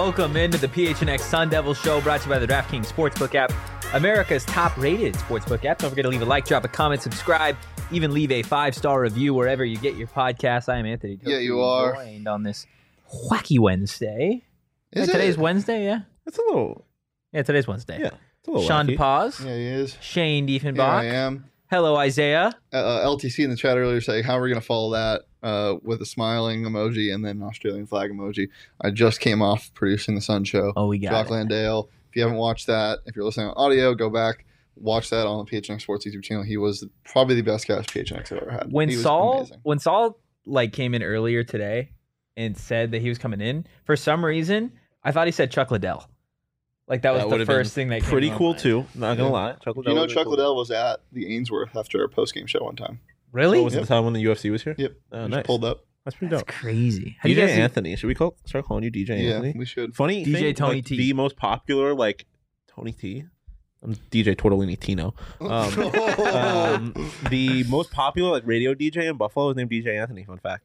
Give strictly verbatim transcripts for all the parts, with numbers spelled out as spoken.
Welcome into the P H N X Sun Devil Show, brought to you by the DraftKings Sportsbook app, America's top-rated sportsbook app. Don't forget to leave a like, drop a comment, subscribe, even leave a five-star review wherever you get your podcasts. I am Anthony. Yeah, you are. Joined on this wacky Wednesday. Is yeah, it? Today's Wednesday, yeah? It's a little... Yeah, today's Wednesday. Yeah, it's a little Sean wacky. DePaz. Yeah, he is. Shane Here Diefenbach. I am. Hello, Isaiah. Uh, uh, L T C in the chat earlier saying, how are we going to follow that uh, with a smiling emoji and then an Australian flag emoji? I just came off producing the Sun Show. Oh, we got Jock it. Landale. If you haven't watched that, if you're listening on audio, go back, watch that on the P H N X Sports YouTube channel. He was probably the best guest P H N X have ever had. When He was Saul, amazing. when Saul like came in earlier today and said that he was coming in, for some reason, I thought he said Chuck Liddell. Like that was That the would've first been thing that came Pretty to my cool, mind. too. Not going to lie. Chuck Do you know would've been Chuck cool. Liddell was at the Ainsworth after our post-game show one time? Really? Oh, was it Yep. the time when the U F C was here? Yep. Oh, He just nice. pulled up. That's pretty That's dope. crazy. How do D you J guys see- Anthony. Should we call start calling you D J Yeah, Anthony? we should. Funny D J thing, Tony like, T. the most popular, like, Tony T. I'm D J Tortellini Tino. Um, um, the most popular, like, radio D J in Buffalo is named D J Anthony. Fun fact.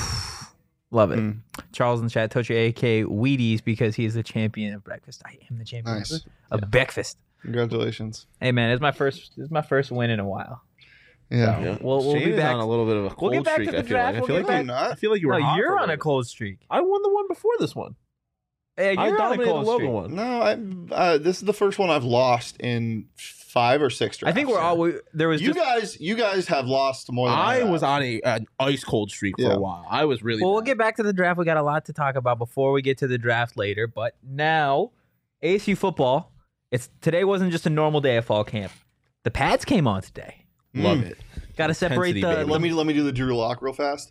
Love it. Mm. Charles in the chat, Tochi, A K Wheaties, because he is the champion of breakfast. I am the champion Nice. of Yeah. breakfast. Congratulations. Hey man, it's my first. This is my first win in a while. Yeah. Yeah. We'll- we'll Shane be is back- on a little bit of a cold We'll get back streak. to the I feel draft. like. I We'll feel get like, back- you, I feel like you were. No, hot you're for a on a little cold streak. bit. I won the one before this one. Hey, I you're on a dominated cold the Logan streak. one. No, I, uh, this is the first one I've lost in five or six drafts. I think we're all. We, there was You just. guys, you guys have lost more than I, I was have. on a an ice cold streak for Yeah. a while. I was really. Well, we'll bad. get back to the draft. We got a lot to talk about before we get to the draft later. But now, A S U football. It's today wasn't just a normal day of fall camp. The pads came on today. Love Mm. it. Got to separate Intensity, the. baby. Let me let me do the Drew Lock real fast.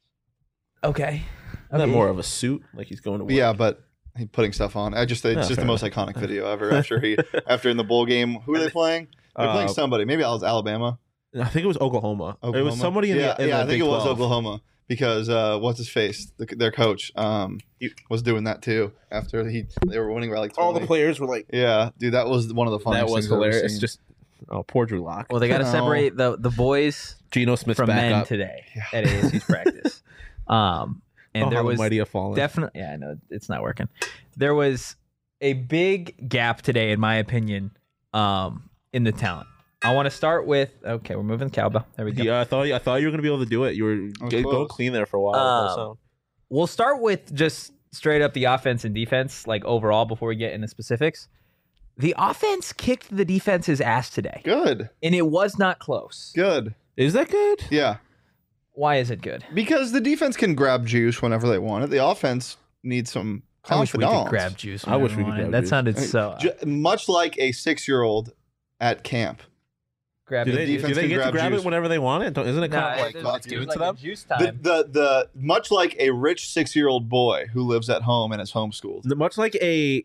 Okay. Isn't that Okay. more of a suit, like he's going to work? Yeah, but he putting stuff on. I just it's No, just the fair most iconic video ever. After he after in the bowl game, who are they playing? They're playing Uh, somebody. Maybe it was Alabama. I think it was Oklahoma. Oklahoma. It was somebody in yeah, the in yeah. the I think Big it was twelve. Oklahoma because uh, what's his face, the, their coach, um, You- was doing that too. After he they were winning by like All the twenty. players were like, Yeah, dude, that was one of the funniest that was things I've ever hilarious. seen. Just oh, poor Drew Lock. Well, they got to No. separate the the boys Geno Smith's from back men up. today Yeah. at A S U's practice. Um, and oh, there how the was mighty have fallen. definitely, yeah, I know it's not working. There was a big gap today, in my opinion, um, in the talent. I want to start with. Okay, we're moving the cowbell. There we go. Yeah, I thought I thought you were gonna be able to do it. You were was g- going close. clean there for a while. Um, so. We'll start with just straight up the offense and defense, like overall, before we get into specifics. The offense kicked the defense's ass today, Good, and it was not close. good. Is that good? Yeah, Why is it good? because the defense can grab juice whenever they want it. The offense needs some I wish we confidence. could grab juice. I wish whenever we could wanted. grab That juice. sounded I mean, so. Ju- much like a six-year-old at camp. grab Do it. they, do defense they can get to grab grab juice. it whenever they want it? Don't, isn't it Nah, kind of like there's- God's there's given like to a them? Juice The, time. the the much like a rich six-year-old boy who lives at home and is homeschooled. The- Much like a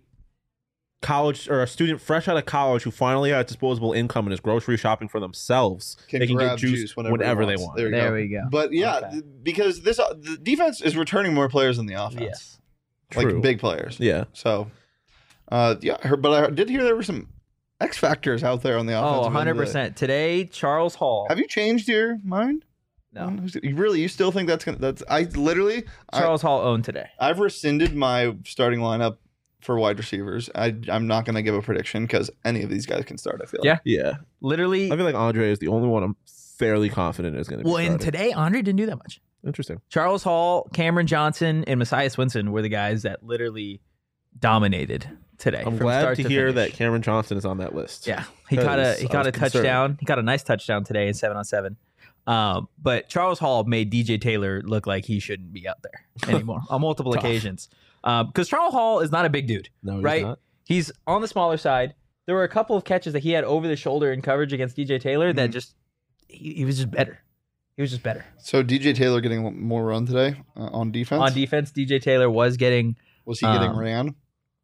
college or a student fresh out of college who finally has disposable income and is grocery shopping for themselves, Can they can grab get juice, juice whenever, whenever he they wants. want. There, you There go. we go. But yeah, Okay. th- because this uh, the defense is returning more players than the offense, Yes. True. like big players. Yeah. So, uh, yeah, I heard- but I did hear there were some X factors out there on the offense. Oh, one hundred percent. Today, Charles Hall. Have you changed your mind? No. Who's- You really? You still think that's gonna? That's I literally. I, Charles Hall owned today. I've rescinded my starting lineup for wide receivers. I I'm not gonna give a prediction because any of these guys can start. I feel. Yeah. Yeah. Literally. I feel like Andre is the only one I'm fairly confident is going to be Well, and starting. today, Andre didn't do that much. Interesting. Charles Hall, Cameron Johnson, and Messiah Swinson were the guys that literally dominated today. I'm from glad start to to hear finish. that Cameron Johnson is on that list. Yeah, he caught a Because he I caught was a concerned. touchdown. He got a nice touchdown today in seven on seven. Um, but Charles Hall made D J Taylor look like he shouldn't be out there anymore on multiple Tough. occasions. Um, because Charles Hall is not a big dude. No, he's Right? not. He's on the smaller side. There were a couple of catches that he had over the shoulder in coverage against D J Taylor that Mhm. just he, he was just better. He was just better So D J Taylor getting more run today uh, on defense. on defense. D J Taylor was getting Was he getting Um, ran?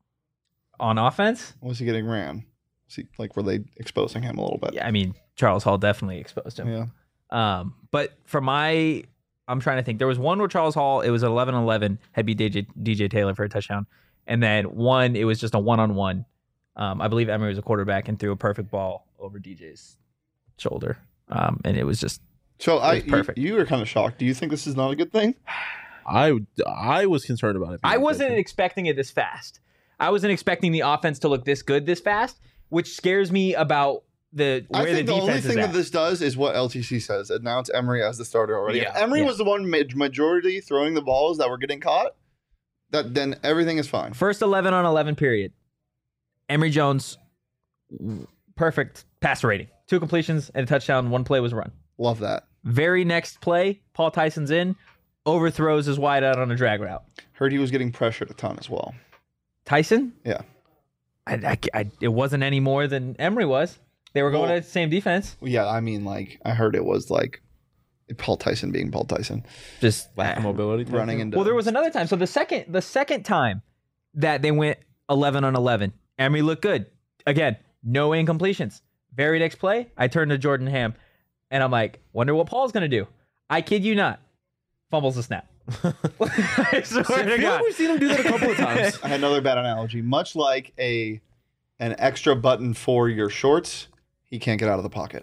on offense. Was he getting ran? Was he like were they exposing him a little bit? Yeah, I mean Charles Hall definitely exposed him. Yeah. Um, but for my, I'm trying to think. There was one where Charles Hall, it was eleven eleven, had beat D J, D J Taylor for a touchdown. And then one, it was just a one-on-one. Um, I believe Emery was a quarterback and threw a perfect ball over D J's shoulder. Um, and it was just, So I was perfect. You, you were kind of shocked. Do you think this is not a good thing? I I was concerned about it. I wasn't expecting it this fast. I wasn't expecting the offense to look this good this fast, which scares me about the where I think the the, defense only is thing at. that this does is what L T C says. Announce Emery as the starter already. Yeah, if Emery yeah. was the one ma- majority throwing the balls that were getting caught, that then everything is fine. First eleven on eleven period. Emory Jones, perfect passer rating. Two completions and a touchdown. One play was run. Love that. Very next play, Paul Tyson's in, overthrows his wide out on a drag route. Heard he was getting pressured a ton as well. Tyson? Yeah. I, I, I, it wasn't any more than Emory was. They were going Well- to the same defense. Yeah, I mean, like I heard it was like Paul Tyson being Paul Tyson, Just lack of mobility. type running thing. into. Well, there was another time. So the second, the second time that they went eleven on eleven, Emory looked good. Again, no incompletions. Very next play, I turned to Jordan Ham, and I'm like, wonder what Paul's gonna do. I kid you not, fumbles the snap. I swear I to feel God. like we've seen him do that a couple of times. I had another bad analogy. Much like a an extra button for your shorts, he can't get out of the pocket.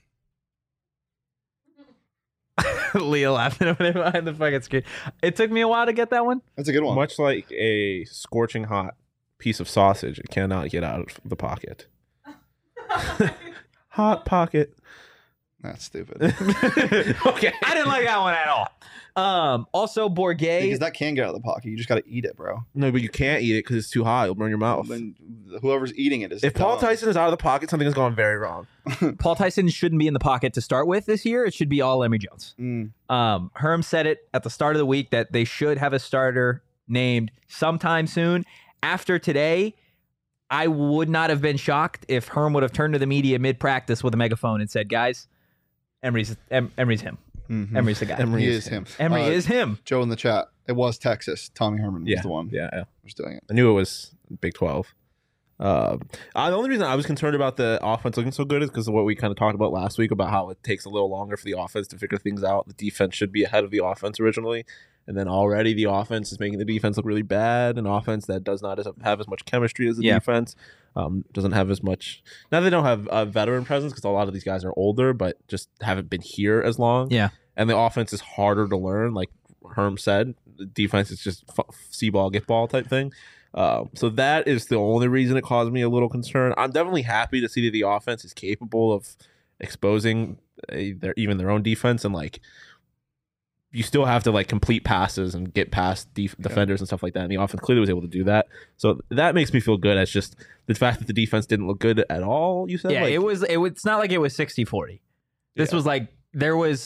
Leah laughing over there behind the fucking screen. It took me a while to get that one. That's a good one. Much like a scorching hot piece of sausage, it cannot get out of the pocket. Hot pocket. That's stupid. Okay. I didn't like that one at all. Um, also, Bourget. Because that can get out of the pocket. You just got to eat it, bro. No, but you can't eat it because it's too hot. It'll burn your mouth. Then whoever's eating it is. If Paul dumb. Tyson is out of the pocket, something has gone very wrong. Paul Tyson shouldn't be in the pocket to start with this year. It should be all Emory Jones. Mm. Um, Herm said it at the start of the week that they should have a starter named sometime soon. After today, I would not have been shocked if Herm would have turned to the media mid-practice with a megaphone and said, guys, Emory's, em- Emory's him. Mhm. Emory's the guy. Emory He is is him. Emory Uh, is him. Joe in the chat. It was Texas. Tommy Herman Yeah, was the one yeah, yeah. who was doing it. I knew it was Big twelve. Uh, uh, the only reason I was concerned about the offense looking so good is because of what we kind of talked about last week about how it takes a little longer for the offense to figure things out. The defense should be ahead of the offense originally, and then already the offense is making the defense look really bad. An offense that does not have as much chemistry as the Yeah. defense, um, doesn't have as much. Now they don't have a veteran presence because a lot of these guys are older, but just haven't been here as long. Yeah. And the offense is harder to learn, like Herm said. The defense is just f- see ball, get ball type thing. Uh, so that is the only reason it caused me a little concern. I'm definitely happy to see that the offense is capable of exposing a, their even their own defense, and like you still have to like complete passes and get past def- Yeah. defenders and stuff like that. And the offense clearly was able to do that. So that makes me feel good. It's just the fact that the defense didn't look good at all. You said, Yeah, like, it was. It was. It's not like it was sixty forty. This Yeah. was like there was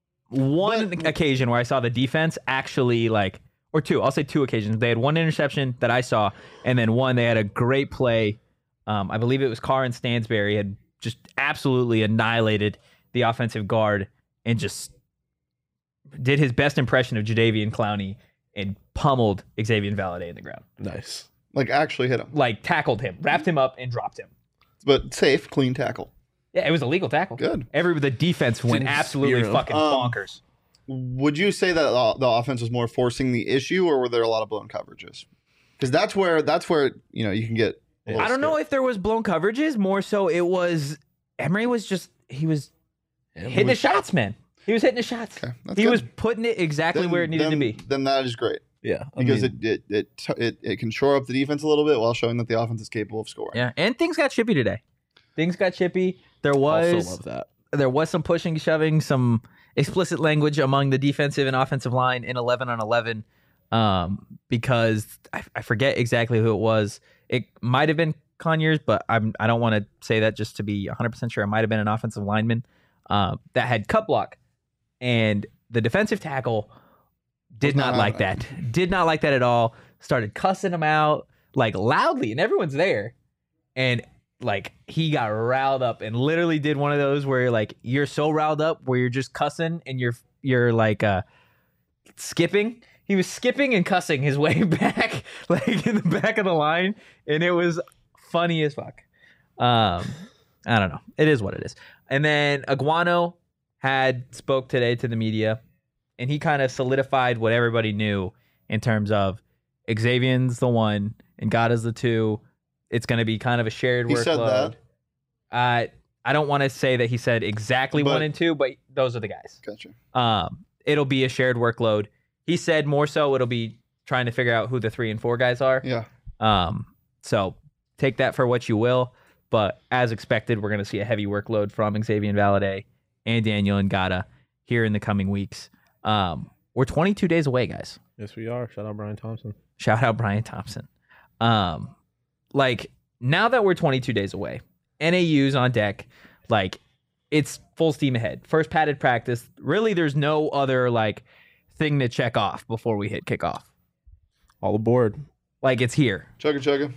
one But- occasion where I saw the defense actually like, or two. I'll say two occasions. They had one interception that I saw, and then one they had a great play. Um, I believe it was Carr and Stansberry had just absolutely annihilated the offensive guard and just did his best impression of Jadeveon Clowney and pummeled Xavier Valladay in the ground. nice. Like actually hit him, Like tackled him, wrapped him up, and dropped him. but safe, clean tackle. Yeah, it was a legal tackle. Good. Every the defense went Didn't absolutely spear him. fucking Um, bonkers. Would you say that the the offense was more forcing the issue, or were there a lot of blown coverages? Because that's where that's where you know you can get. a little I don't know scared. if there was blown coverages. More so, it was Emory was just he was hitting the shots, man. He was hitting the shots. Okay, that's He good. was putting it exactly Then- where it needed then, to be. Then that is great Yeah, I because mean, it, it it it it can shore up the defense a little bit while showing that the offense is capable of scoring. Yeah, and things got chippy today. Things got chippy. There also was love that. there was some pushing, shoving, some explicit language among the defensive and offensive line in eleven on eleven um, because I, I forget exactly who it was. It might have been Conyers, but I'm, I don't want to say that just to be one hundred percent sure. It might have been an offensive lineman uh, that had cut block. And the defensive tackle did Was not not like having that. Did not like that at all. Started cussing him out like loudly, and everyone's there. And like he got riled up and literally did one of those where you're like you're so riled up where you're just cussing and you're you're like uh skipping. He was skipping and cussing his way back like in the back of the line, and it was funny as fuck. Um I don't know. It is what it is. And then Aguano had spoke today to the media, and he kind of solidified what everybody knew in terms of Xavier's the one and God is the two. It's going to be kind of a shared He workload. said that. Uh, I don't want to say that he said exactly But- one and two, but those are the guys. Gotcha. Um, it'll be a shared workload. he said more so it'll be trying to figure out who the three and four guys are. Yeah. Um, so take that for what you will. But as expected, we're going to see a heavy workload from Xavier Valade and Daniel Ngata here in the coming weeks. Um, we're twenty-two days away, guys. Yes, we are. Shout out Brian Thompson. Shout out Brian Thompson. Um, like now that we're twenty-two days away, N A U's on deck. Like it's full steam ahead. First padded practice. Really, there's no other like thing to check off before we hit kickoff. All aboard. Like it's here. Chugga chugga.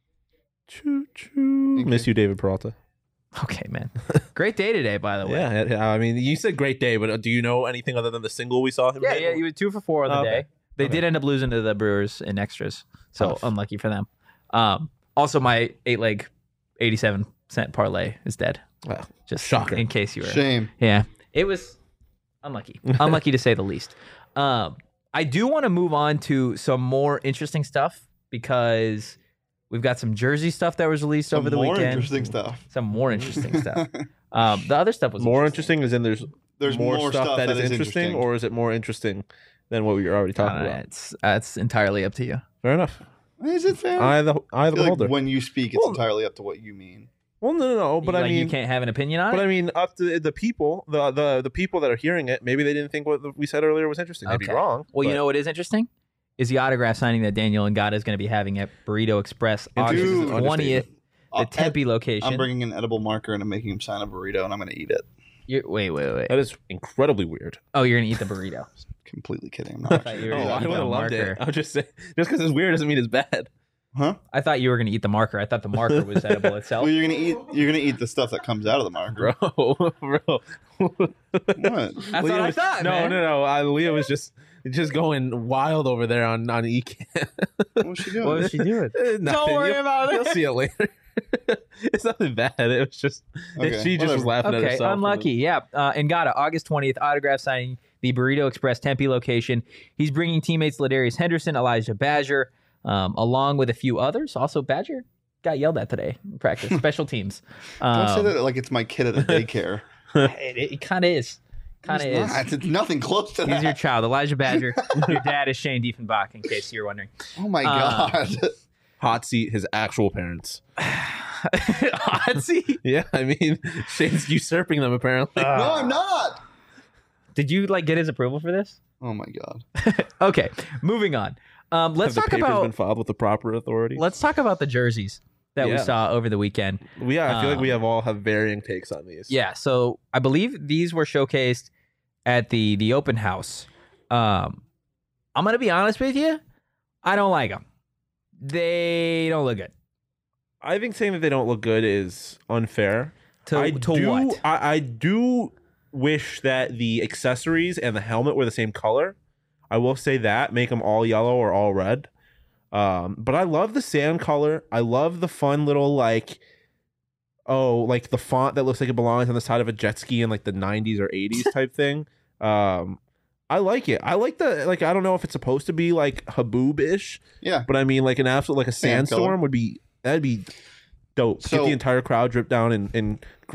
Choo choo. Miss you, David Peralta. Okay, man. Great day today, by the way. Yeah, yeah, I mean, you said great day, but do you know anything other than the single we saw him? Yeah, hit? yeah. He was two for four on the Oh, okay. day. They Okay. did end up losing to the Brewers in extras, so Tough. unlucky for them. Um, also, my eight leg, eighty-seven cent parlay is dead. Well, Just Shocker. in case you were. Shame. Yeah, it was unlucky. Unlucky to say the least. Um, I do want to move on to some more interesting stuff because we've got some jersey stuff that was released Some over the more weekend. interesting stuff. Some more interesting stuff. Um, the other stuff was more interesting is in there's There's more, more stuff, stuff that that is is interesting, interesting. or is it more interesting than what we were already talking Uh, about? it's that's entirely up to you. Fair enough. Is it fair? I the I I the feel beholder. like when you speak, it's Well- entirely up to what you mean. well, no, no, no. But like I mean, you can't have an opinion on but it. I mean, up to the people, the the the people that are hearing it, maybe they didn't think what we said earlier was interesting. They'd Okay. be wrong. Well, you but- know what is interesting is the autograph signing that Daniel Ngata is going to be having at Burrito Express August Dude. twentieth, the Uh, Tempe location. I'm bringing an edible marker and I'm making him sign a burrito and I'm going to eat it. You're, wait, wait, wait. that is incredibly weird. Oh, you're going to eat the burrito. Completely kidding. I'm I not. thought you were Oh, gonna I eat would the have loved marker. it. I was just saying, just because it's weird doesn't mean it's bad. Huh? I thought you were going to eat the marker. I thought the marker was edible itself. Well, you're gonna eat. You're gonna eat the stuff that comes out of the marker. Bro, bro. What? That's what I was, thought, No, man. no, no. I, Leah was just just going wild over there on on E C A M. What's she doing? What was she doing? Eh, nothing. worry You'll- about it. You'll see it later. It's nothing bad. It was just Okay, she just was whatever. laughing at Okay, herself. unlucky. Yeah. Uh, Ngata, August twentieth, autograph signing, the Burrito Express Tempe location. He's bringing teammates Ladarius Henderson, Elijah Badger, um, along with a few others. Also, Badger got yelled at today in practice. Special teams. Um, Don't say that like it's my kid at a daycare. It, it kind of is. Kind of It's is. not. It's nothing close to He's your that. child, Elijah Badger. Your dad is Shane Diefenbach, in case you're wondering. Oh my Uh, god. Hot seat his actual parents. Hot seat. Yeah, I mean Shane's usurping them apparently. no, I'm not. Did you like get his approval for this? Oh my god. Okay, moving on. Um, let's Have talk the papers about been filed with the proper authority. let's talk about the jerseys that we Yeah. saw over the weekend. We yeah, I feel like we um, have all have varying takes on these. Yeah, so I believe these were showcased at the the open house. Um, I'm gonna be honest with you, I don't like them. They don't look good. I think saying that they don't look good is unfair. To I to do, what? I, I do wish that the accessories and the helmet were the same color. I will say that make them all yellow or all red. Um, but I love the sand color. I love the fun little like, oh, like the font that looks like it belongs on the side of a jet ski in like the nineties or eighties type thing. Um, I like it. I like the like. I don't know if it's supposed to be like Haboob ish, Yeah. but I mean like an absolute like a Sand color. sandstorm would be that'd be dope. Get So- the entire crowd drip down in in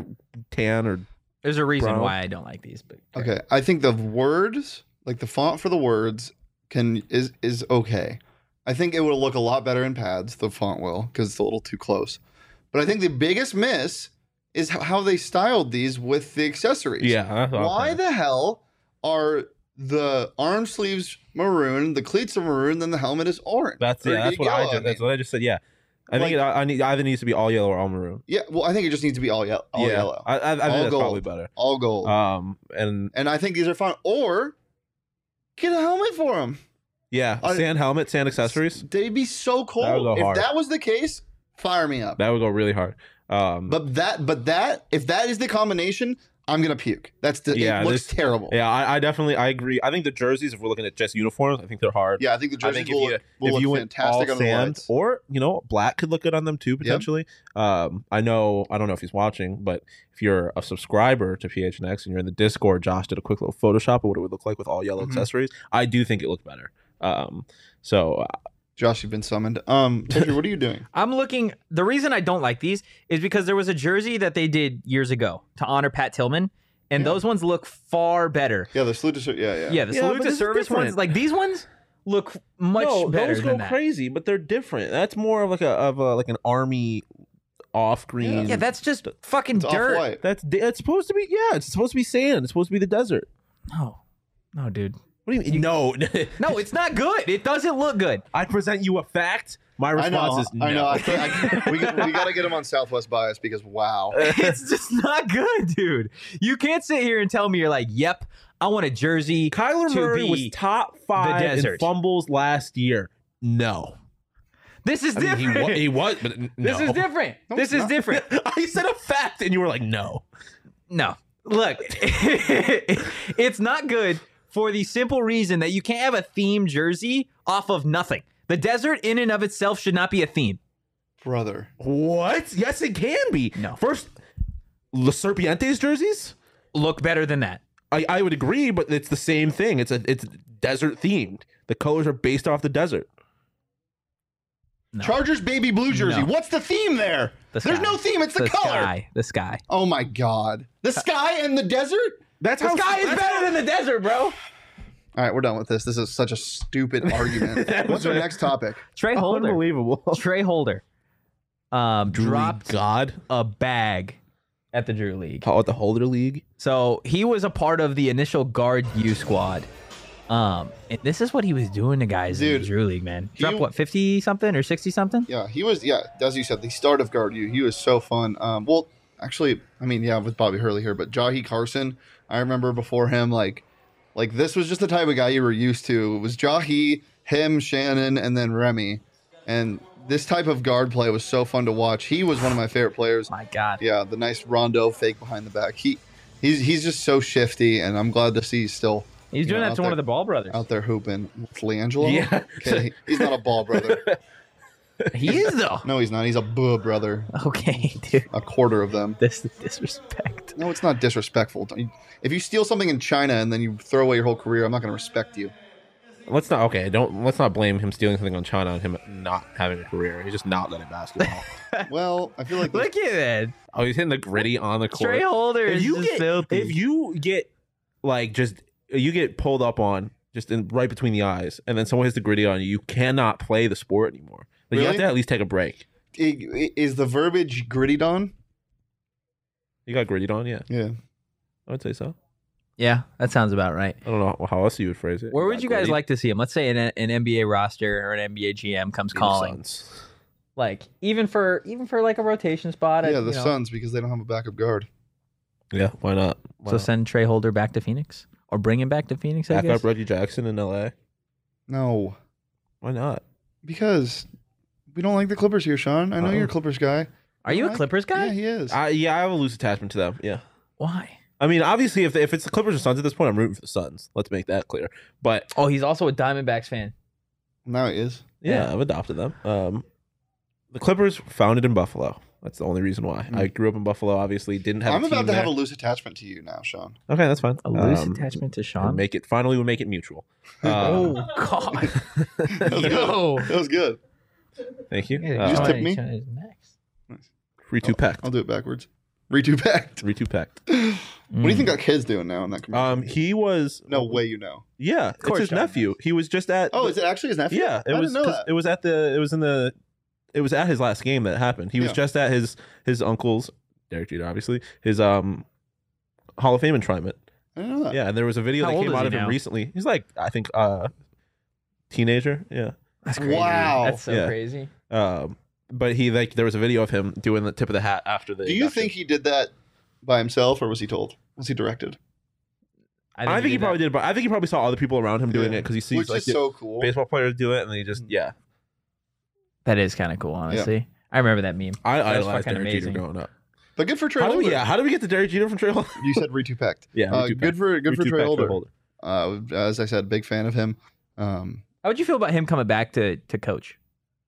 tan or There's a reason Bro. why I don't like these. But Okay. I think the words, like the font for the words, can is is okay. I think it will look a lot better in pads. The font will because it's a little too close. But I think the biggest miss is h- how they styled these with the accessories. yeah. Why the hell are the arm sleeves maroon, the cleats are maroon, then the helmet is orange? That's Or yeah. That's what yellow, I just. That's mean. what I just said. Yeah. I think it, I, I need, either needs to be all yellow or all maroon. Yeah, well, I think it just needs to be all, ye- all yeah. yellow, I, I, I think All that's gold. probably better. all gold. Um. And and I think these are fine. Or get a helmet for them. yeah, I- sand helmet, sand accessories. They'd be so cool. That would go If hard. that was the case, fire me up. That would go really hard. Um. But that, but that, if that is the combination, I'm gonna puke. That's the. Yeah, it looks this- terrible. yeah, I, I definitely I agree. I think the jerseys, if we're looking at just uniforms, I think they're hard. Yeah, I think the I jerseys think if will you look, will if look you went all fantastic on the sand lights. or you know black could look good on them too potentially. Um, I know I don't know if he's watching, but if you're a subscriber to P H N X and you're in the Discord, Josh did a quick little Photoshop of what it would look like with all yellow Mhm. accessories. I do think it looked better. Um, so uh, Josh, you've been summoned. Um, Pedro, what are you doing? I'm looking. The reason I don't like these is because there was a jersey that they did years ago to honor Pat Tillman, and Yeah. those ones look far better. Yeah, the salute to ser- yeah, yeah. Yeah, the Yeah, salute but to this is service ones, different. like these ones, look much no, better those go than that. crazy, but they're different. That's more of like a of a like an army off green. Yeah, that's just fucking It's dirt. off-white. that's it's supposed to be. Yeah, it's supposed to be sand. It's supposed to be the desert. No, no, dude. What do you mean? No, No, it's not good. It doesn't look good. I present you a fact. My I response know. is no. I know. I can't, I can't, we we got to get him on Southwest bias because wow. It's just not good, dude. You can't sit here and tell me you're like, yep, I want a jersey. Kyler to Murray be was top five in desert. fumbles last year. No, This is I mean, different. he, wa- he was, but n- This no. is different. No, this it's is not. different. I said a fact, and you were like, no. No, look, it's not good for the simple reason that you can't have a theme jersey off of nothing. The desert in and of itself should not be a theme. Brother. What? Yes, it can be. No. First, La Serpientes jerseys. Look better than that. I, I would agree, but it's the same thing. It's a it's desert themed. The colors are based off the desert. No. Chargers baby blue jersey. No. What's the theme there? The There's sky. no theme. It's the, the color. sky. The sky. Oh my god. The sky and the desert? That's The how sky is that's better than the desert, bro. All right, we're done with this. This is such a stupid argument. What's our next topic? Trey Holder. unbelievable. Trey Holder. Um, dropped God. a bag at the Drew League. Call it the Holder League. So he was a part of the initial guard U squad. Um, and this is what he was doing to guys in Dude, the Drew League, man. he- Dropped what, fifty something or sixty something? Yeah, he was. Yeah, as you said, the start of guard you. He was so fun. Um, well, actually, I mean, yeah, with Bobby Hurley here, but Jahi Carson, I remember before him, like, like this was just the type of guy you were used to. It was Jahi, him, Shannon, and then Remy, and this type of guard play was so fun to watch. He was one of my favorite players. My God. Yeah, the nice rondo fake behind the back. He, he's he's just so shifty, and I'm glad to see he's still He's you doing know, that out to one there- of the Ball brothers. out there hooping. Leangelo? Yeah. Okay, he's not a ball brother. He is, though. No, he's not. He's a buh brother. Okay, dude. A quarter of them. This is disrespect. No, it's not disrespectful. Don't you- If you steal something in China and then you throw away your whole career, I'm not going to respect you. Let's not okay. Don't let's not blame him stealing something on China on him not having a career. He's just not good at basketball. Well, I feel like this- Look at that. Oh, he's hitting the gritty on the court. Trey Holder if is you just get filthy. if you get like just you get pulled up on just in right between the eyes, and then someone hits the gritty on you, you cannot play the sport anymore. Like, you have Really? to at least take a break. I- I- is the verbiage gritty on? You got grittied on, yeah. Yeah. I would say so. Yeah, that sounds about right. I don't know how else you would phrase it. Where would got you guys gritty. like to see him? Let's say an, an N B A roster or an N B A G M comes The calling. Suns. Like even for even for like a rotation spot. Yeah, I- the you know. Suns because they don't have a backup guard. Yeah, why not? Why So not? send Trey Holder back to Phoenix or bring him back to Phoenix. I back guess. up Reggie Jackson in L A. No, Why not? because we don't like the Clippers here, Sean. I know Uh-oh. you're a Clippers guy. Are you a What? Clippers guy? Yeah, he is. I, yeah, I have a loose attachment to them. Yeah. Why? I mean, obviously, if if it's the Clippers or Suns at this point, I'm rooting for the Suns. Let's make that clear. But Oh, he's also a Diamondbacks fan. now he is. yeah, Yeah. I've adopted them. Um, the Clippers founded in Buffalo. That's the only reason why. I grew up in Buffalo. Obviously, didn't have. I'm a team about to there. have a loose attachment to you now, Sean. Okay, that's fine. A loose Um, attachment to and Sean. Make it finally. We'll make it mutual. Um, oh God. That was Yo. good. That was good. Thank you. Yeah, Uh, just Sean- tip me? Sean is next. Free two packed. I'll do it backwards. Redo packed. Free two packed. What do Mm. you think that kid's doing now in that commercial? Um, he was. no way you know. Yeah, it's course his John nephew. He was just at. Oh, the- is it actually his nephew? Yeah, it I was. didn't know 'cause that. It was at the. It was in the. It was at his last game that happened. He was Yeah. just at his his uncle's, Derek Jeter, obviously his um, Hall of Fame enshrinement. I didn't know that. Yeah, and there was a video How that old came is out he of him now? recently. He's like, I think, uh, teenager. Yeah. That's crazy. Wow. That's so Yeah. crazy. Um, but he like there was a video of him doing the tip of the hat after the. Do you induction. think he did that by himself, or was he told? Was he directed? I think, he, did probably that. did, but I think he probably saw other people around him doing Yeah. it because he sees Which like is the so cool. baseball players do it, and then he just yeah. That is kind of cool, honestly. I remember that meme. I That was idolized fucking Derek Jeter amazing. growing up. But good for Trey How do Holder. we, yeah, how did we get to Derek Jeter from Trey Holder? You said Retupect. Yeah, uh, Retupect. good for good for Retupect Trey Holder. Holder. Uh, as I said, big fan of him. Um, How would you feel about him coming back to to coach?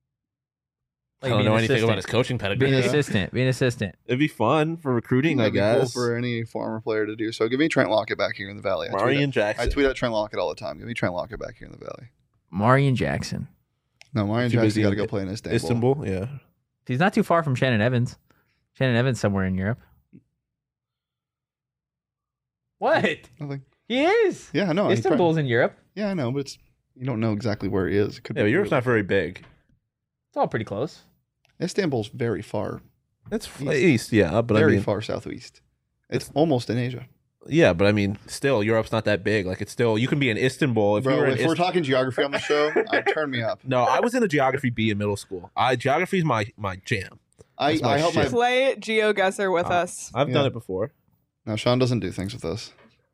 I don't being know an anything about his assistant. coaching Being pedigree. an assistant. Being an assistant. It'd be fun for recruiting, I that'd be cool guess. for any former player to do. So give me Trent Lockett back here in the Valley. I tweet, Marion at, I Jackson. tweet at Trent Lockett all the time. Give me Trent Lockett back here in the Valley. Marion Jackson. No, Marion Too Jackson busy got to in go play in Istanbul. Istanbul, yeah. He's not too far from Shannon Evans. Shannon Evans somewhere in Europe. What? Nothing. He is. Yeah, I know. he Istanbul's in Europe. prob- yeah, I know, but it's you don't know exactly where he is. It could Yeah, but be Europe's really- not very big. It's all pretty close. Istanbul's very far, It's f- East. east, yeah, but very I mean, far southeast. It's almost in Asia. yeah, but I mean, still, Europe's not that big. Like, it's still you can be in Istanbul if Bro, you were in. if we're Ist- talking geography on the show, uh, turn me up. no, I was in a geography B in middle school. I geography's my my jam. I, That's my I help my shit. Play GeoGuessr with Uh, us. I've Yeah. done it before. no. Sean doesn't do things with us.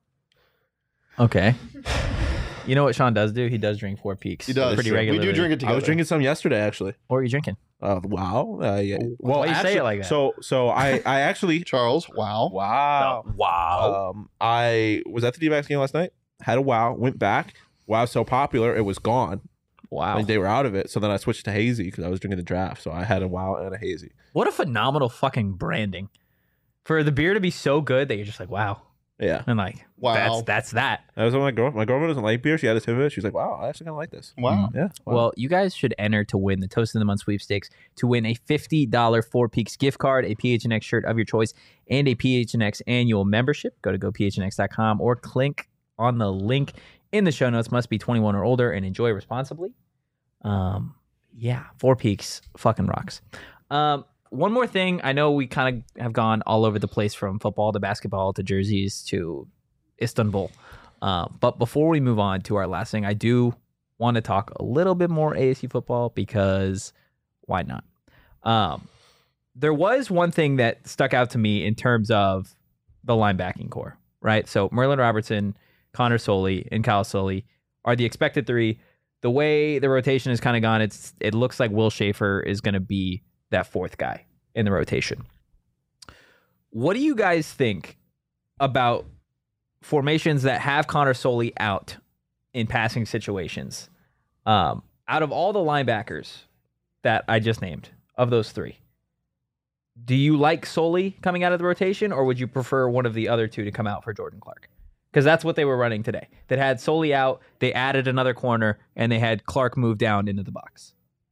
Okay. You know what Sean does do? He does drink Four Peaks. He does. pretty We regularly. do drink it together. I was drinking some yesterday, actually. What are you drinking? Uh, wow. Uh, yeah. Well, Why you say actually, it like that? So, so I, I actually, Charles. Wow. wow. Wow. Um, I was at the D-backs game last night. Had a wow. Went back. Wow, was so popular, it was gone. wow. Like they were out of it. So then I switched to hazy because I was drinking the draft. So I had a wow and a hazy. What a phenomenal fucking branding. For the beer to be so good that you're just like, wow. Yeah. And like, Wow. that's that's that. I was with my girl. My girlfriend doesn't like beer. She had a sip of it. She was like, "Wow, I actually kind of like this." Wow. Yeah. Wow. Well, you guys should enter to win the Toast of the Month sweepstakes to win a fifty dollars Four Peaks gift card, a P H N X shirt of your choice, and a P H N X annual membership. Go to go P H N X dot com or click on the link in the show notes. Must be twenty-one or older and enjoy responsibly. Um, yeah, Four Peaks fucking rocks. Um, one more thing. I know we kind of have gone all over the place from football to basketball to jerseys to Istanbul. Uh, but before we move on to our last thing, I do want to talk a little bit more A S U football because why not? Um, there was one thing that stuck out to me in terms of the linebacking core, right? So Merlin Robertson, Connor Soley, and Kyle Soley are the expected three. The way the rotation has kind of gone, it's it looks like Will Schaefer is going to be that fourth guy in the rotation. What do you guys think about formations that have Connor Soley out in passing situations? Um, out of all the linebackers that I just named, of those three, do you like Soley coming out of the rotation, or would you prefer one of the other two to come out for Jordan Clark? Because that's what they were running today. That had Soley out, they added another corner, and they had Clark move down into the box.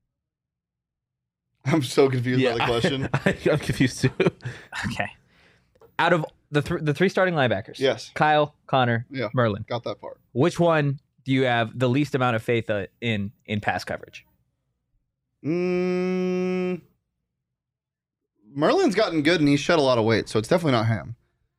I'm so confused by the question. I, am confused too. Okay. Out of the th- the three starting linebackers, Yes. Kyle, Connor, Yeah. Merlin, Got that part. which one do you have the least amount of faith uh, in in pass coverage? Mm, Merlin's gotten good and he's shed a lot of weight, so it's definitely not him.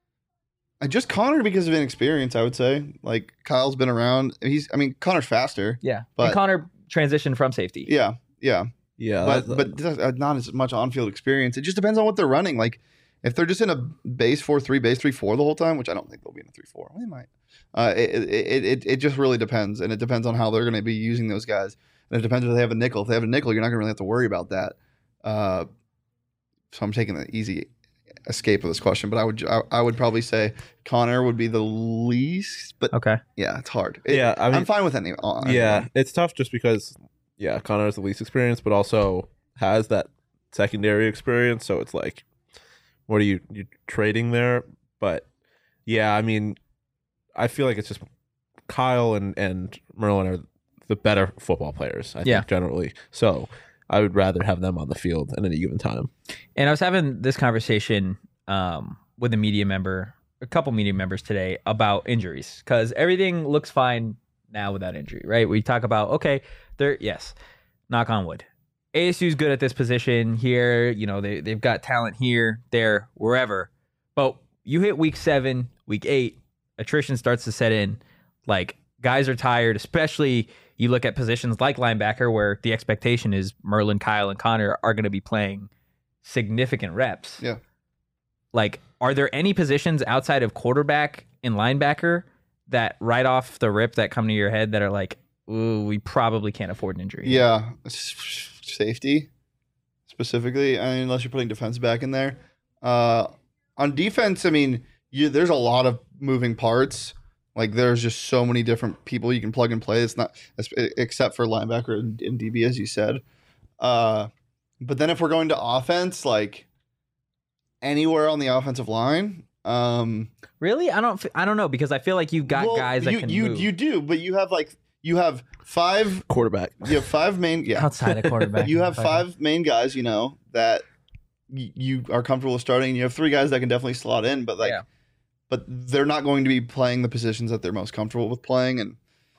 I just Connor because of inexperience, I would say. Like Kyle's been around. He's, I mean, Connor's faster. Yeah, But- and Connor transitioned from safety. Yeah, yeah, Yeah, but that's- but th- uh, not as much on-field experience. It just depends on what they're running. Like if they're just in a base four three, base three four the whole time, which I don't think they'll be in a three four. They might. Uh, it, it it it just really depends, and it depends on how they're going to be using those guys, and it depends if they have a nickel. If they have a nickel, you're not going to really have to worry about that. Uh, so I'm taking the easy escape of this question, but I would I, I would probably say Connor would be the least, but Okay. yeah, it's hard. It- yeah, I mean, I'm fine with any. uh, yeah, anyone. it's tough just because, yeah, Connor has the least experience, but also has that secondary experience. So it's like, what are you you trading there? But yeah, I mean, I feel like it's just Kyle and and Merlin are the better football players. I Yeah. think generally. So I would rather have them on the field at any given time. And I was having this conversation um, with a media member, a couple media members today about injuries because everything looks fine now without injury, right? We talk about, okay, there, yes, knock on wood. A S U's good at this position here. You know, they, they've got talent here, there, wherever. But you hit week seven, week eight, attrition starts to set in. Like, guys are tired, especially you look at positions like linebacker where the expectation is Merlin, Kyle, and Connor are going to be playing significant reps. Yeah. Like, are there any positions outside of quarterback and linebacker that right off the rip that come to your head that are like, ooh, we probably can't afford an injury? Yeah, S- safety specifically. I mean, unless you're putting defense back in there. Uh, on defense, I mean, you, there's a lot of moving parts. Like there's just so many different people you can plug and play. It's not except for linebacker and, and D B, as you said. Uh, but then if we're going to offense, like anywhere on the offensive line. Um, Really? I don't. f- I don't know because I feel like you've got well, guys that you, can you move you do, but you have like you have five. Quarterback. You have five main. Yeah, outside of quarterback. you have five main guys, you know, that y- you are comfortable with starting. You have three guys that can definitely slot in, but like, Yeah. but they're not going to be playing the positions that they're most comfortable with playing, and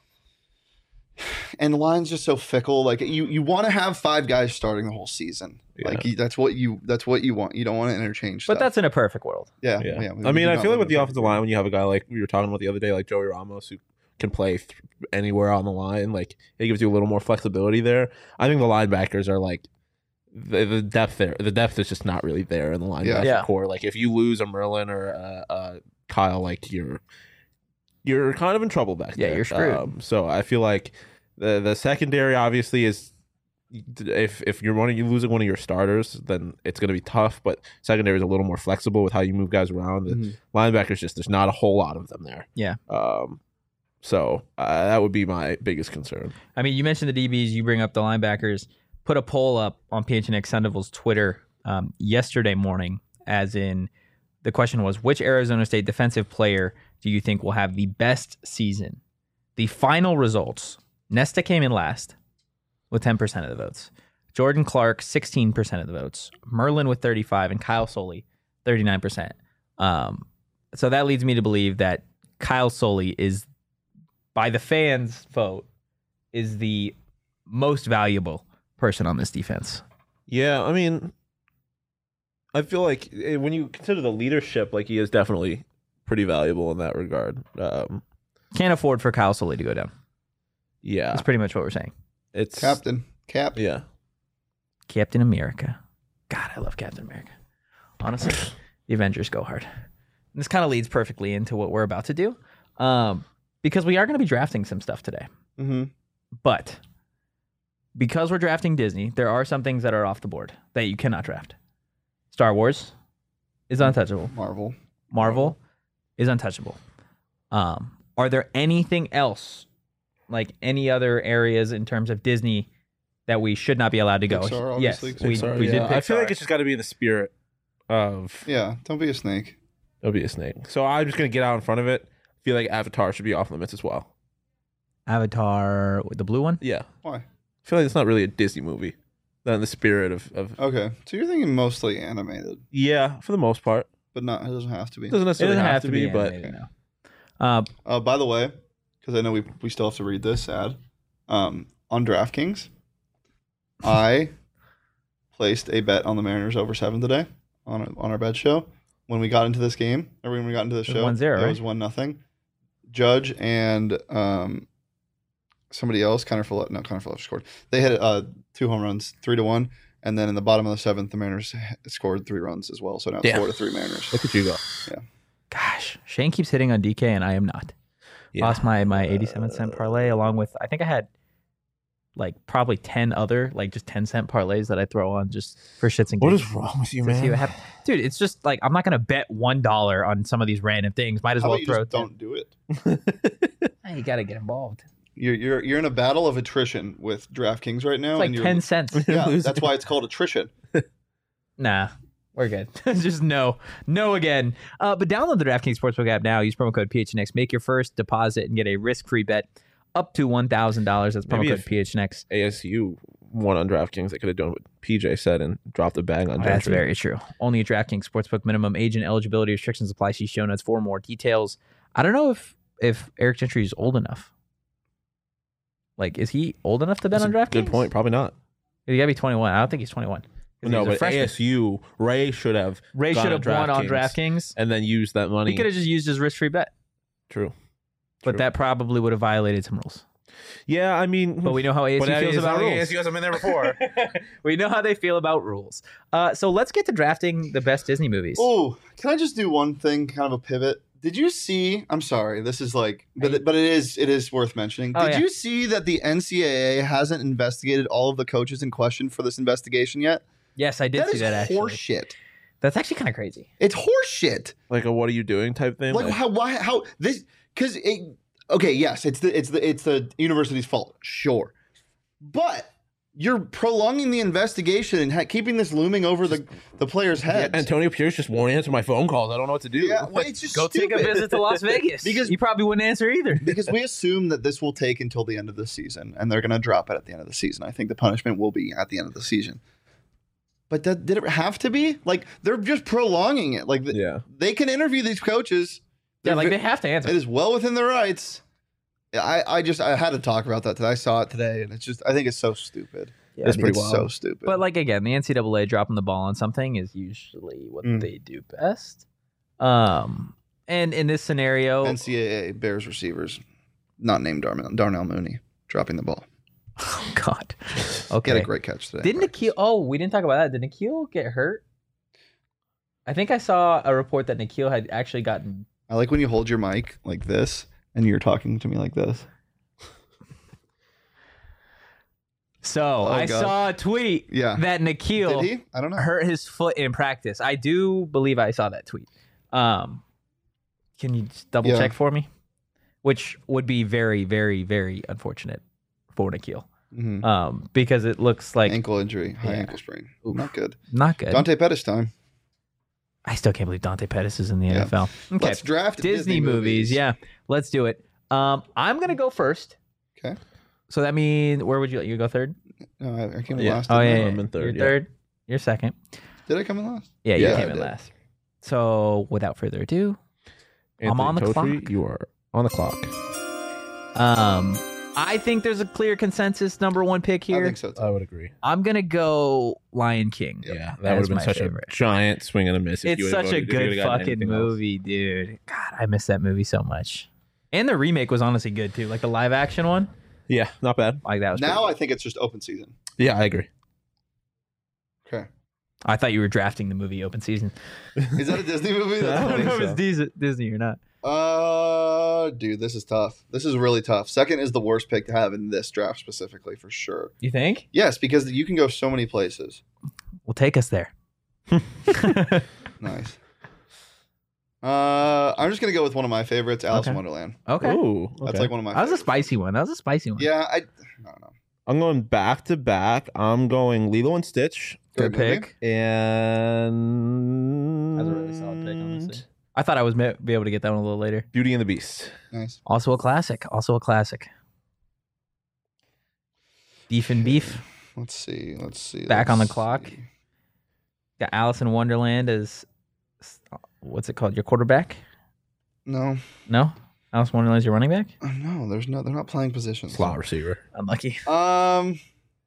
and the line's just so fickle. Like you, you want to have five guys starting the whole season. Yeah. Like you, that's what you that's what you want. You don't want to interchange. But stuff. that's in a perfect world. yeah, Yeah. yeah. we- I we mean, do I not feel like live with the in a offensive line, when you have a guy like we were talking about the other day, like Joey Ramos, who can play th- anywhere on the line, like it gives you a little more flexibility there. I think the linebackers are like the, the depth there. The depth is just not really there in the linebacker Yeah. core. Like if you lose a Merlin or a, a Kyle, like you're you're kind of in trouble back Yeah, there. you're screwed. Um, so I feel like the the secondary obviously is. If if you're one of you losing one of your starters, then it's going to be tough. But secondary is a little more flexible with how you move guys around. The Mhm. linebackers just there's not a whole lot of them there. Yeah. Um. So uh, that would be my biggest concern. I mean, you mentioned the D Bs, you bring up the linebackers. Put a poll up on P H N X Sundeville's Twitter um, yesterday morning, as in the question was, which Arizona State defensive player do you think will have the best season? The final results, Nesta came in last with ten percent of the votes. Jordan Clark, sixteen percent of the votes. Merlin with thirty-five, and Kyle Soley, thirty-nine percent. Um, so that leads me to believe that Kyle Soley is, by the fans' vote, is the most valuable person on this defense. Yeah, I mean, I feel like eh, when you consider the leadership, like he is definitely pretty valuable in that regard. Um, Can't afford for Kyle Soley to go down. yeah, That's pretty much what we're saying. it's Captain, Cap. Yeah, Captain America. God, I love Captain America. Honestly, the Avengers go hard. And this kind of leads perfectly into what we're about to do, um, because we are going to be drafting some stuff today. Mm-hmm. But because we're drafting Disney, there are some things that are off the board that you cannot draft. Star Wars is untouchable. Marvel. Marvel is untouchable. Um, are there anything else, like any other areas in terms of Disney, that we should not be allowed to go? Pixar, yes, obviously. we, Pixar, we did yeah. I feel Pixar. like it's just got to be in the spirit of Yeah, don't be a snake. it'll be a snake. So I'm just gonna get out in front of it. I feel like Avatar should be off limits as well. Avatar, the blue one. Yeah, Why? I feel like it's not really a Disney movie. Not in the spirit of, of Okay, so you're thinking mostly animated, yeah, for the most part. but not. It doesn't have to be. It doesn't It necessarily doesn't have, to be, but animated, no. Uh, Uh, by the way, because I know we we still have to read this ad, um, on DraftKings, I placed a bet on the Mariners over seven today on our, on our bet show. When we got into this game, or when we got into the was show, one zero, it right? was one nothing. Judge and um, somebody else, Connor Follett, no, Connor Follett scored. They had uh, two home runs, three to one, and then in the bottom of the seventh, the Mariners scored three runs as well. So now it's Yeah. four to three Mariners. look at you go. gosh, Shane keeps hitting on D K, and I am not. Yeah. Lost my my eighty-seven cent parlay along with, I think I had like probably ten other like just ten cent parlays that I throw on just for shits and What gigs. is wrong with you, to see man? what happens. Dude, it's just like I'm not gonna bet one dollar on some of these random things. Might as How well about you throw. just don't do it? Hey, you gotta get involved. You're you're you're in a battle of attrition with DraftKings right now. It's like and you're, ten cents. Yeah, Losing. that's why it's called attrition. Nah, we're good. Just no, no again. Uh, but download the DraftKings Sportsbook app now. Use promo code P H N X. Make your first deposit and get a risk-free bet up to one thousand dollars. That's promo Maybe code if- P H N X. A S U won on DraftKings. They could have done what P J said and dropped a bag on Oh, that's Gentry. very true. Only at DraftKings Sportsbook. Minimum age and eligibility restrictions apply. See show notes for more details. I don't know if if Eric Gentry is old enough. Like, is he old enough to bet That's on a DraftKings? Good point. Probably not. You gotta be twenty-one. I don't think he's twenty-one. 'Cause No, he's a but freshman. A S U, Ray should have Ray gone should have on won on DraftKings. DraftKings. and then used that money. He could have just used his risk-free bet, True. but True. that probably would have violated some rules. Yeah, I mean, But we know how A S U but feels it's about not like rules. A S U hasn't been there before. We know how they feel about rules. Uh, so let's get to drafting the best Disney movies. Oh, can I just do one thing, kind of a pivot? Did you see? I'm sorry, this is like, but Hey. it, but it is it is worth mentioning. Oh, Did yeah. you see that the N C double A hasn't investigated all of the coaches in question for this investigation yet? Yes, I did That see is that actually. horseshit. That's actually kind of crazy. It's horseshit. Like a "what are you doing" type thing. Like how why how this because it okay yes it's the it's the it's the university's fault, sure, but you're prolonging the investigation and ha- keeping this looming over the the players' Yeah, heads. Antonio Pierce just won't answer my phone calls. I don't know what to do. Yeah, well, it's just Go take a stupid. visit to Las Vegas Because- you probably wouldn't answer either. Because we assume that this will take until the end of the season, and they're going to drop it at the end of the season. I think the punishment will be at the end of the season. But that, did it have to be? Like, they're just prolonging it. Like, th- Yeah. they can interview these coaches Yeah, They're like ve- they have to answer. It is well within their rights. I, I just I had to talk about that today. I saw it today, and it's just I think it's so stupid. Yeah, It's pretty it's wild. so stupid. But like again, the N C double A dropping the ball on something is usually what Mm. they do best. Um, and in this scenario, N C double A Bears receivers, not named Darnell, Darnell Mooney, dropping the ball. oh god, He had okay. a great catch today. Didn't Nikhil? Oh, we didn't talk about that. Did Nikhil get hurt? I think I saw a report that Nikhil had actually gotten. I like when you hold your mic like this and you're talking to me like this. So I God. saw a tweet Yeah. that Nikhil Did he? I don't know. hurt his foot in practice. I do believe I saw that tweet. Um, can you just double Yeah. check for me? Which would be very, very, very unfortunate for Nikhil. Mhm. Um, because it looks like Ankle injury, high Yeah. ankle sprain. Oof. Not good. not good. Dante Pettis time. I still can't believe Dante Pettis is in the Yeah. N F L. Okay, Let's draft Disney, movies. Yeah, let's do it. Um, I'm gonna go first. Okay. So that means where would you you go third? No, I, I came in Yeah. last. Oh didn't yeah, I? yeah. I'm in third, You're yeah. third. You're second. Did I come in last? Yeah, you Yeah, came I in did. last. So without further ado, I'm on the Totri, clock. You are on the clock. um, I think there's a clear consensus number one pick I here. think so too. I would agree. I'm gonna go Lion King. Yep. Yeah, that That would is have been my such favorite. a giant swing and a miss. If It's you would've such a voted- if you good would've gotten fucking anything else. movie, dude. God, I miss that movie so much. And the remake was honestly good too, like the live action one. Yeah, not bad. Like that was Now pretty I think it's just open season. Yeah, I agree. Okay. good. I thought you were drafting the movie open season. Is that a Disney movie? I I That's don't don't funny. know think if so. it's Dis- Disney or not. Uh, dude, this is tough. This is really tough. Second is the worst pick to have in this draft specifically, for sure. You think? Yes, because you can go so many places. Well, take us there. Nice. Uh, I'm just gonna go with one of my favorites, Alice in Okay. Wonderland. Okay. Ooh, That's okay. like one of my. That was a favorites. spicy one. That was a spicy one. Yeah, I. I don't know. I'm going back to back. I'm going Lilo and Stitch Good Great movie. pick. and That's a really solid pick, honestly. I thought I was ma- be able to get that one a little later. Beauty and the Beast. Nice. Also a classic. Also a classic. Beef and Beef. Let's see. Let's see. Back on the let's clock. see. Got Alice in Wonderland as what's it called? Your quarterback? No, No? Alice in Wonderland is your running back? Uh, no. There's no. They're not playing positions. Slot receiver. Unlucky. Um,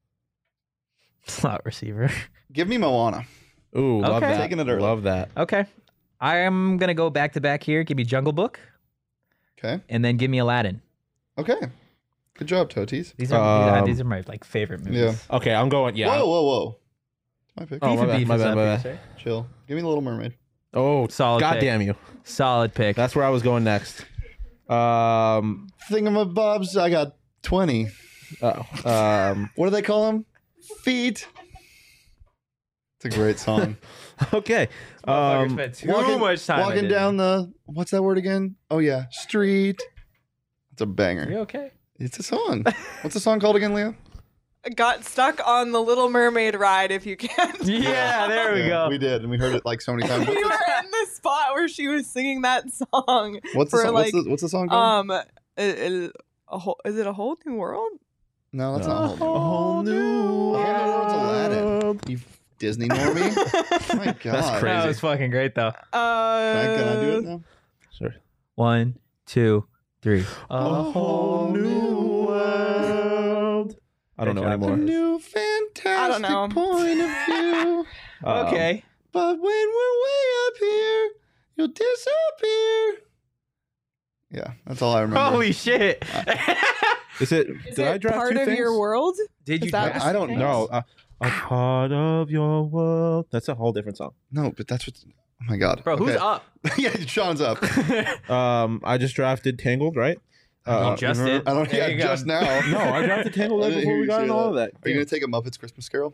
Slot receiver. give me Moana. Ooh, love Okay. that. Taking it early. Love that. Okay. I am gonna go back to back here. Give me Jungle Book Okay. and then give me Aladdin. Okay. Good job, Toties. These are these, are Um, these are my like favorite movies. Yeah. Okay, I'm going. Yeah. Whoa, whoa, whoa. My pick. Oh, Beef my and bad, Beef my is bad, up my here, bad. sir. Chill. Give me the Little Mermaid. Oh, Solid God pick. damn you. Solid pick. That's where I was going next. Um. Thingamabobs. I got twenty. Oh. Um. What do they call them? Feet. It's a great song. Okay. Motherfucker Um. spent too walking- much time. Walking at down the what's that word again? Oh yeah, street. It's a banger. Disney. You okay? It's a song. What's the song called again, Leo? Got stuck on the Little Mermaid ride, if you can. Yeah, there we Yeah, go. We did, and we heard it like so many times. we What's, were in the spot where she was singing that song. the, what's, the for, song? like, what's, the, what's the song called? Um, a, a, a whole, is it a whole new world? no, that's A not whole. whole new A Whole New World's Aladdin. world. You Disney normie. My God, That's crazy. That was fucking great though. Uh, Can I, can I do it now? Sure. One, two, three. A whole new world. I don't Good know job. A anymore. new fantastic know. point of view. Um, Okay. But when we're way up here, you'll disappear. Yeah, that's all I remember. Holy shit. Is it? Is did it I draft part two of things? your world? Did Is you that- draft I don't things? know. No. Uh, a part of your world. That's a whole different song. No, but that's what. Oh my God, Bro, who's Okay. up? Yeah, Sean's up. Um, I just drafted Tangled, right? Uh, You just remember- did? I don't. There Yeah, you go. just now. No, I drafted Tangled I right didn't before hear we you got say into all of that. Are you gonna take a Muppets Christmas Carol?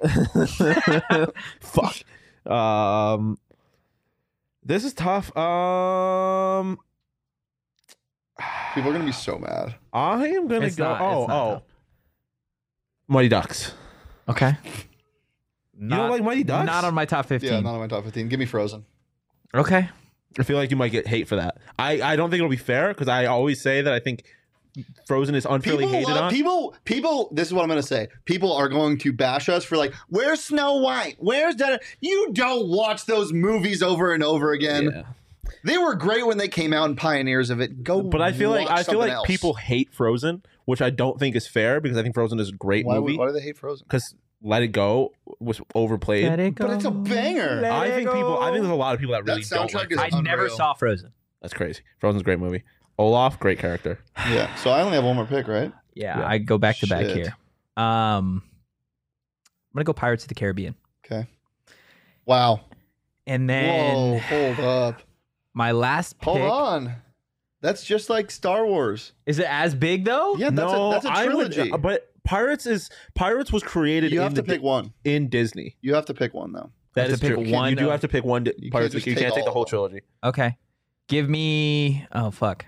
Fuck. Um, this is tough. Um, People are gonna be so mad. I am gonna It's go. not- oh, it's not oh, tough. Mighty Ducks. Okay. You don't like Mighty Ducks? Not on my top fifteen. Yeah, not on my top fifteen. Give me Frozen. Okay. I feel like you might get hate for that. I, I don't think it'll be fair because I always say that I think Frozen is unfairly People, hated love, on. people, people. This is what I'm gonna say. People are going to bash us for like, where's Snow White? Where's that? You don't watch those movies over and over again. Yeah. They were great when they came out and pioneers of it. Go, But I feel like watch I feel something like else. people hate Frozen, which I don't think is fair because I think Frozen is a great Why, movie. why do they hate Frozen? Because Let It Go was overplayed. Let it But it's a go. banger. Let I it think people. I think there's a go. lot of people that That really don't soundtrack like is I Frozen. never unreal. saw Frozen. That's crazy. Frozen's a great movie. Olaf, great character. Yeah. So I only have one more pick, right? Yeah, Yeah. I go back to back Shit. here. Um, I'm gonna go Pirates of the Caribbean, Okay. Wow. and then Whoa. Hold up. my last pick. Hold on. That's just like Star Wars. Is it as big though? Yeah, that's no, a that's a I would- trilogy. but Pirates is Pirates was created you in have the to pick one. in Disney. You have to pick one though. That have is to pick true. one You do of- have to pick one. Di- You Pirates. can't just You can't take take the all whole of them. trilogy. Okay. Give me. Oh fuck.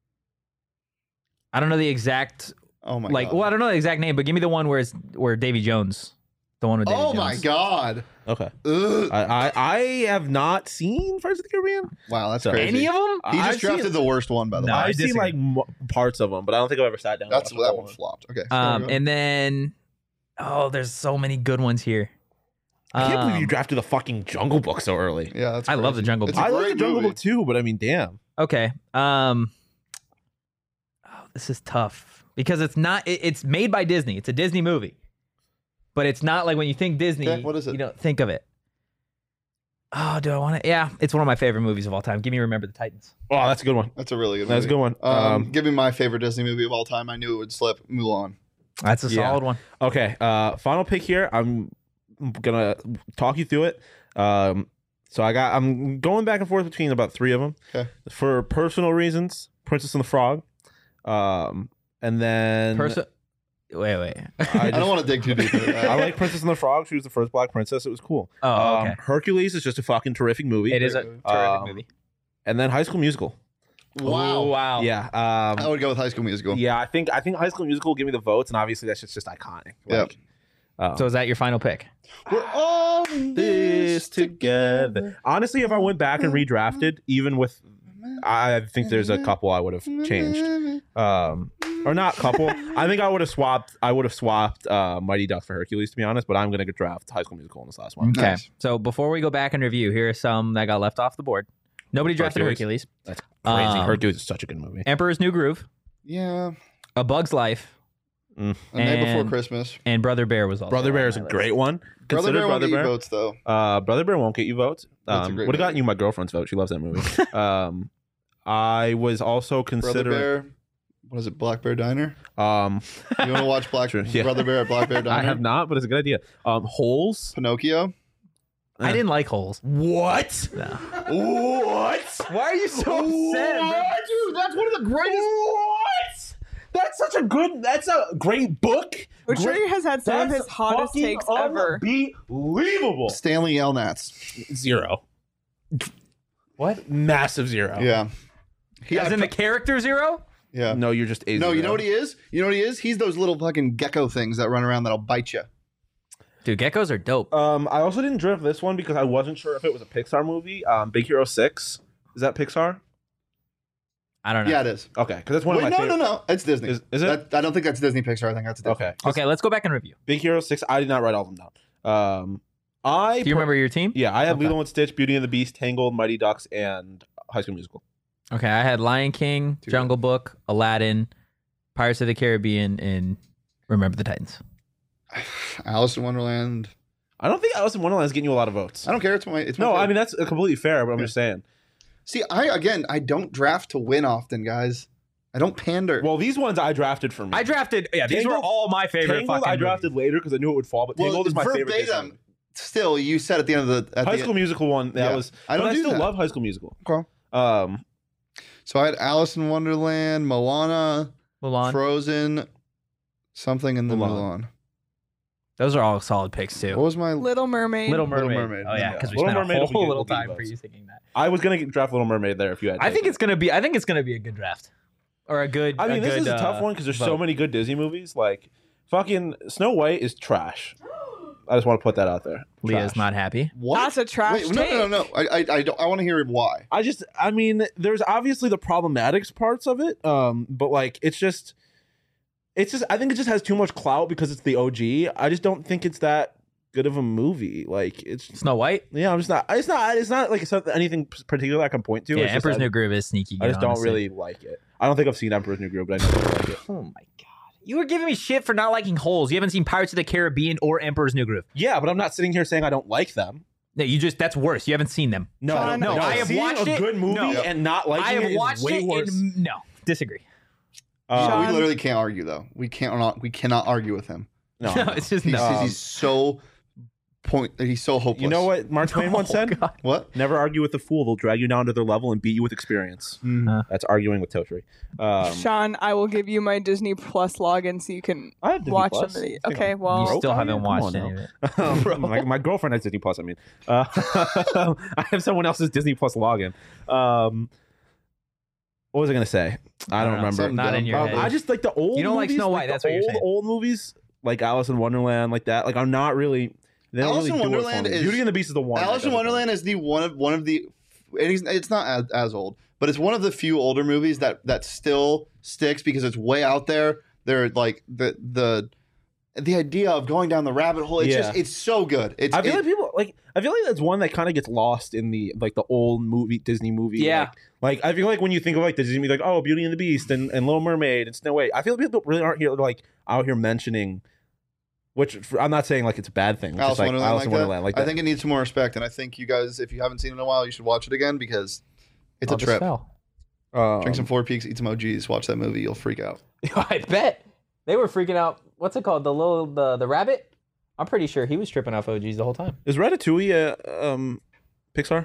I don't know the exact Oh my like. god. Well, I don't know the exact name, but give me the one where it's where Davy Jones, the one with Davy Oh Jones. my god. Okay. Ugh. I, I I have not seen Pirates of the Caribbean. Wow, that's So- crazy. Any of them? He just I've drafted seen, the worst one, by the No, way. I I've seen disagree. like mo- parts of them, but I don't think I've ever sat down. That's and watched that the one whole flopped. Okay. Um, sorry, go. and then oh, there's so many good ones here. I can't believe Um, you drafted the fucking Jungle Book so early. yeah, that's I love crazy. the Jungle It's Book. a I like great the Jungle movie. Book too, but I mean, damn. Okay. Um. Oh, this is tough because it's not. It, it's made by Disney. It's a Disney movie, but it's not like when you think Disney. Okay, what is it? You don't think of it. Oh, do I want to? Yeah, it's one of my favorite movies of all time. Give me Remember the Titans. Oh, that's a good one. That's a really good movie. That's a good one. Um, Um, give me my favorite Disney movie of all time. I knew it would slip. Mulan. That's a Yeah. solid one. Okay, uh, final pick here. I'm gonna talk you through it. Um, so I got. I'm going back and forth between about three of them. Okay. For personal reasons, Princess and the Frog. Um, and then Person. Wait, wait. I, I just- don't want to dig too deep into that. I like Princess and the Frog. She was the first black princess. It was cool. Oh, Um, okay. Hercules is just a fucking terrific movie. It is a terrific Um, movie. And then High School Musical. Wow. Oh, wow. Yeah. I Um, would go with High School Musical. yeah. I think I think High School Musical will give me the votes, and obviously that's just just iconic. Yeah. Like, um, So is that your final pick? We're all in this together. Honestly, if I went back and redrafted, even with, I think there's a couple I would have changed. Um, or not couple. I think I would have swapped. I would have swapped uh, Mighty Ducks for Hercules, to be honest. But I'm gonna go draft High School Musical in this last one. Okay. Nice. So before we go back and review, here are some that got left off the board. Nobody drafted Hercules. Hercules. That's crazy. Um, Hercules is such a good movie. Emperor's New Groove, Yeah. A Bug's Life, A Night Before And- Christmas. and Brother Bear was also Brother on Bear my is a list. great one. Brother Consider Bear won't Brother get you Bear. votes though. Uh, Brother Bear won't get you votes. That's a Um, great would have gotten movie. you my girlfriend's vote. She loves that movie. um, I was also Brother considering. Bear. What is it? Black Bear Diner. Um, You want to watch Black True, yeah. Brother Bear at Black Bear Diner? I have not, but it's a good idea. Um, Holes. Pinocchio. I didn't like Holes. What? No. What? Why are you so upset, bro? Dude, that's one of the greatest. What? That's such a good. That's a great book. Butcher Great- has had some of That's his hottest fucking takes ever. Unbelievable. Stanley Yelnats. Zero. What? Massive zero. Yeah. He, As I in the pro- character Zero? yeah. No, you're just a No, you zero. know what he is? You know what he is? He's those little fucking gecko things that run around that'll bite you. Dude, geckos are dope. Um, I also didn't draft this one because I wasn't sure if it was a Pixar movie. Um, Big Hero Six. Is that Pixar? I don't know. Yeah, it is. Okay, because that's one Wait, of my no, favorite. no, no. It's Disney. Is- is it? That, I don't think that's Disney Pixar. I think that's Disney. Okay. Okay, let's go back and review. Big Hero Six. I did not write all of them down. Um, I Do you per- remember your team? Yeah, I had Okay. Lilo and Stitch, Beauty and the Beast, Tangled, Mighty Ducks, and High School Musical. Okay, I had Lion King, Dude. Jungle Book, Aladdin, Pirates of the Caribbean, and Remember the Titans. Alice in Wonderland. I don't think Alice in Wonderland is getting you a lot of votes. I don't care. It's my. It's my No, I favorite. mean that's completely fair, but I'm Yeah. just saying. See, I again, I don't draft to win often, guys. I don't pander. Well, these ones I drafted for me. I drafted, yeah, these were Tangled- all my favorite Tangled fucking I drafted later because I knew it would fall, but Well, Tangled is my favorite. Disney verbatim. movie. Still, you said at the end of the at High the School Musical one. That Yeah. was. I don't but do I still that. love High School Musical. Okay. Um, So I had Alice in Wonderland, Moana, Mulan. Frozen, something in the Mulan. Mulan. Those are all solid picks, too. What was my? Little Mermaid. Little Little Mermaid. Mermaid. Oh, yeah, Yeah. because we Little spent Mermaid a will be whole good, little will be time good for you votes. thinking that. I was gonna get- draft Little Mermaid there if you had. I think taken it's going to be, I think it's going to be a good draft. Or a good, I mean, a this good, is a tough uh, one because there's so vote. many good Disney movies. Like, fucking Snow White is trash. I just want to put that out there. Leah's Trash. not happy. What? That's a trash Wait, no, no, no, no. I, I, I, don't, I want to hear why. I just, I mean, there's obviously the problematics parts of it, um, but like, it's just, it's just, I think it just has too much clout because it's the O G. I just don't think it's that good of a movie. Like it's Snow White. yeah, I'm just not. It's not. It's not like it's not anything particular I can point to. Yeah, It's just Emperor's I, New Groove is sneaky. I good, just don't honestly. really like it. I don't think I've seen Emperor's New Groove, but I know I like it. Oh my god. You were giving me shit for not liking Holes. You haven't seen Pirates of the Caribbean or Emperor's New Groove. Yeah, but I'm not sitting here saying I don't like them. No, you just that's worse. You haven't seen them. No, Sean, no, no, I have Seeing watched a it. good movie No. and not liking I have it is watched way it. worse. And, no, disagree. Uh, Sean- we literally can't argue though. We can't not. We cannot argue with him. no, No, no. it's just He's, no. he's so point. He's so hopeless. You know what Mark Twain once Oh, said? God. What? Never argue with a fool. They'll drag you down to their level and beat you with experience. Uh, That's arguing with Totri. Um, Sean, I will give you my Disney Plus login so you can I have Disney watch Plus. some of the. I think Okay, I'm well, you broke still on haven't Come watched on any now. of it. Um, my, my girlfriend has Disney Plus. I mean, uh, I have someone else's Disney Plus login. Um, what was I gonna say? I don't know. remember. Something Not in your dumb. head. I just like the old. You don't like movies, Snow White, the that's what you're old, saying. Old movies like Alice in Wonderland, like that. Like I'm not really. They don't Alice in really do it for Wonderland me. is- Beauty and the Beast is the one. Alice that in does it for me. Wonderland is the one of one of the. And it's, it's not as, as old, but it's one of the few older movies that that still sticks because it's way out there. They're like the the the idea of going down the rabbit hole. It's Yeah. just it's so good. It's I feel it- like people like. I feel like that's one that kind of gets lost in the like the old movie Disney movie. Yeah. Like, like I feel like when you think of like the Disney movie, like oh Beauty and the Beast and, and Little Mermaid and Snow White, I feel like people really aren't here like out here mentioning. Which I'm not saying like it's a bad thing. It's Alice just like Wonderland, Alice like in that. Wonderland, like that. I think it needs some more respect, and I think you guys, if you haven't seen it in a while, you should watch it again because it's Oh, a just trip. fell. Um, Drink some Four Peaks, eat some O Gs, watch that movie, you'll freak out. I bet they were freaking out. What's it called? The little the the rabbit. I'm pretty sure he was tripping off O Gs the whole time. Is Ratatouille a um, Pixar?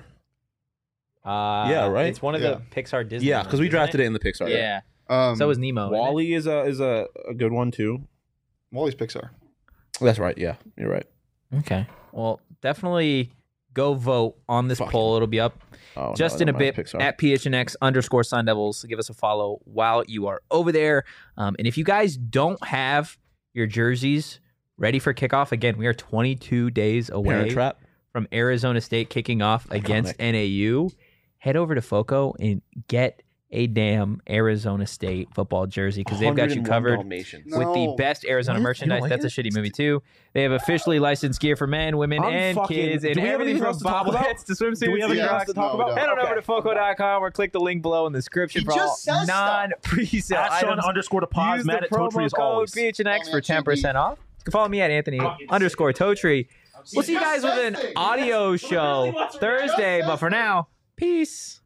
Uh, Yeah, right? It's one of Yeah. the Pixar Disney. Yeah, because we drafted it in the Pixar. Yeah. Um, So was Nemo. isn't it? Wally is a is a, a good one too. Wally's Pixar. That's right. Yeah, you're right. Okay. Well, definitely go vote on this Fuck. poll. It'll be up Oh, just no, in a never bit mind, Pixar. at P H N X underscore Sun Devils. Give us a follow while you are over there. Um, and if you guys don't have your jerseys ready for kickoff, again, we are twenty-two days Parent away Trap. from Arizona State kicking off against N A U. Head over to FOCO and get a damn Arizona State football jersey because they've got you one hundred one covered Dalmatians. No. with the best Arizona What? You merchandise. don't like That's a it? shitty movie too. They have officially licensed gear for men, women, I'm and fucking- kids, and do we have everything anything from else to talk about? bobbleheads to swimsuits. Do we have to anything Yeah, else to Crocs. talk no, we about? don't. Head on Okay. over to foco dot com or click the link below in the description He for all just says stuff. non-pre-sale At Sean items. underscore to pause. Use Matt the at Totri promo as code always. P H N X Oh, for man, ten percent off. You can follow me at Anthony underscore Totri. We'll see you guys with an audio show Thursday, but for now, peace.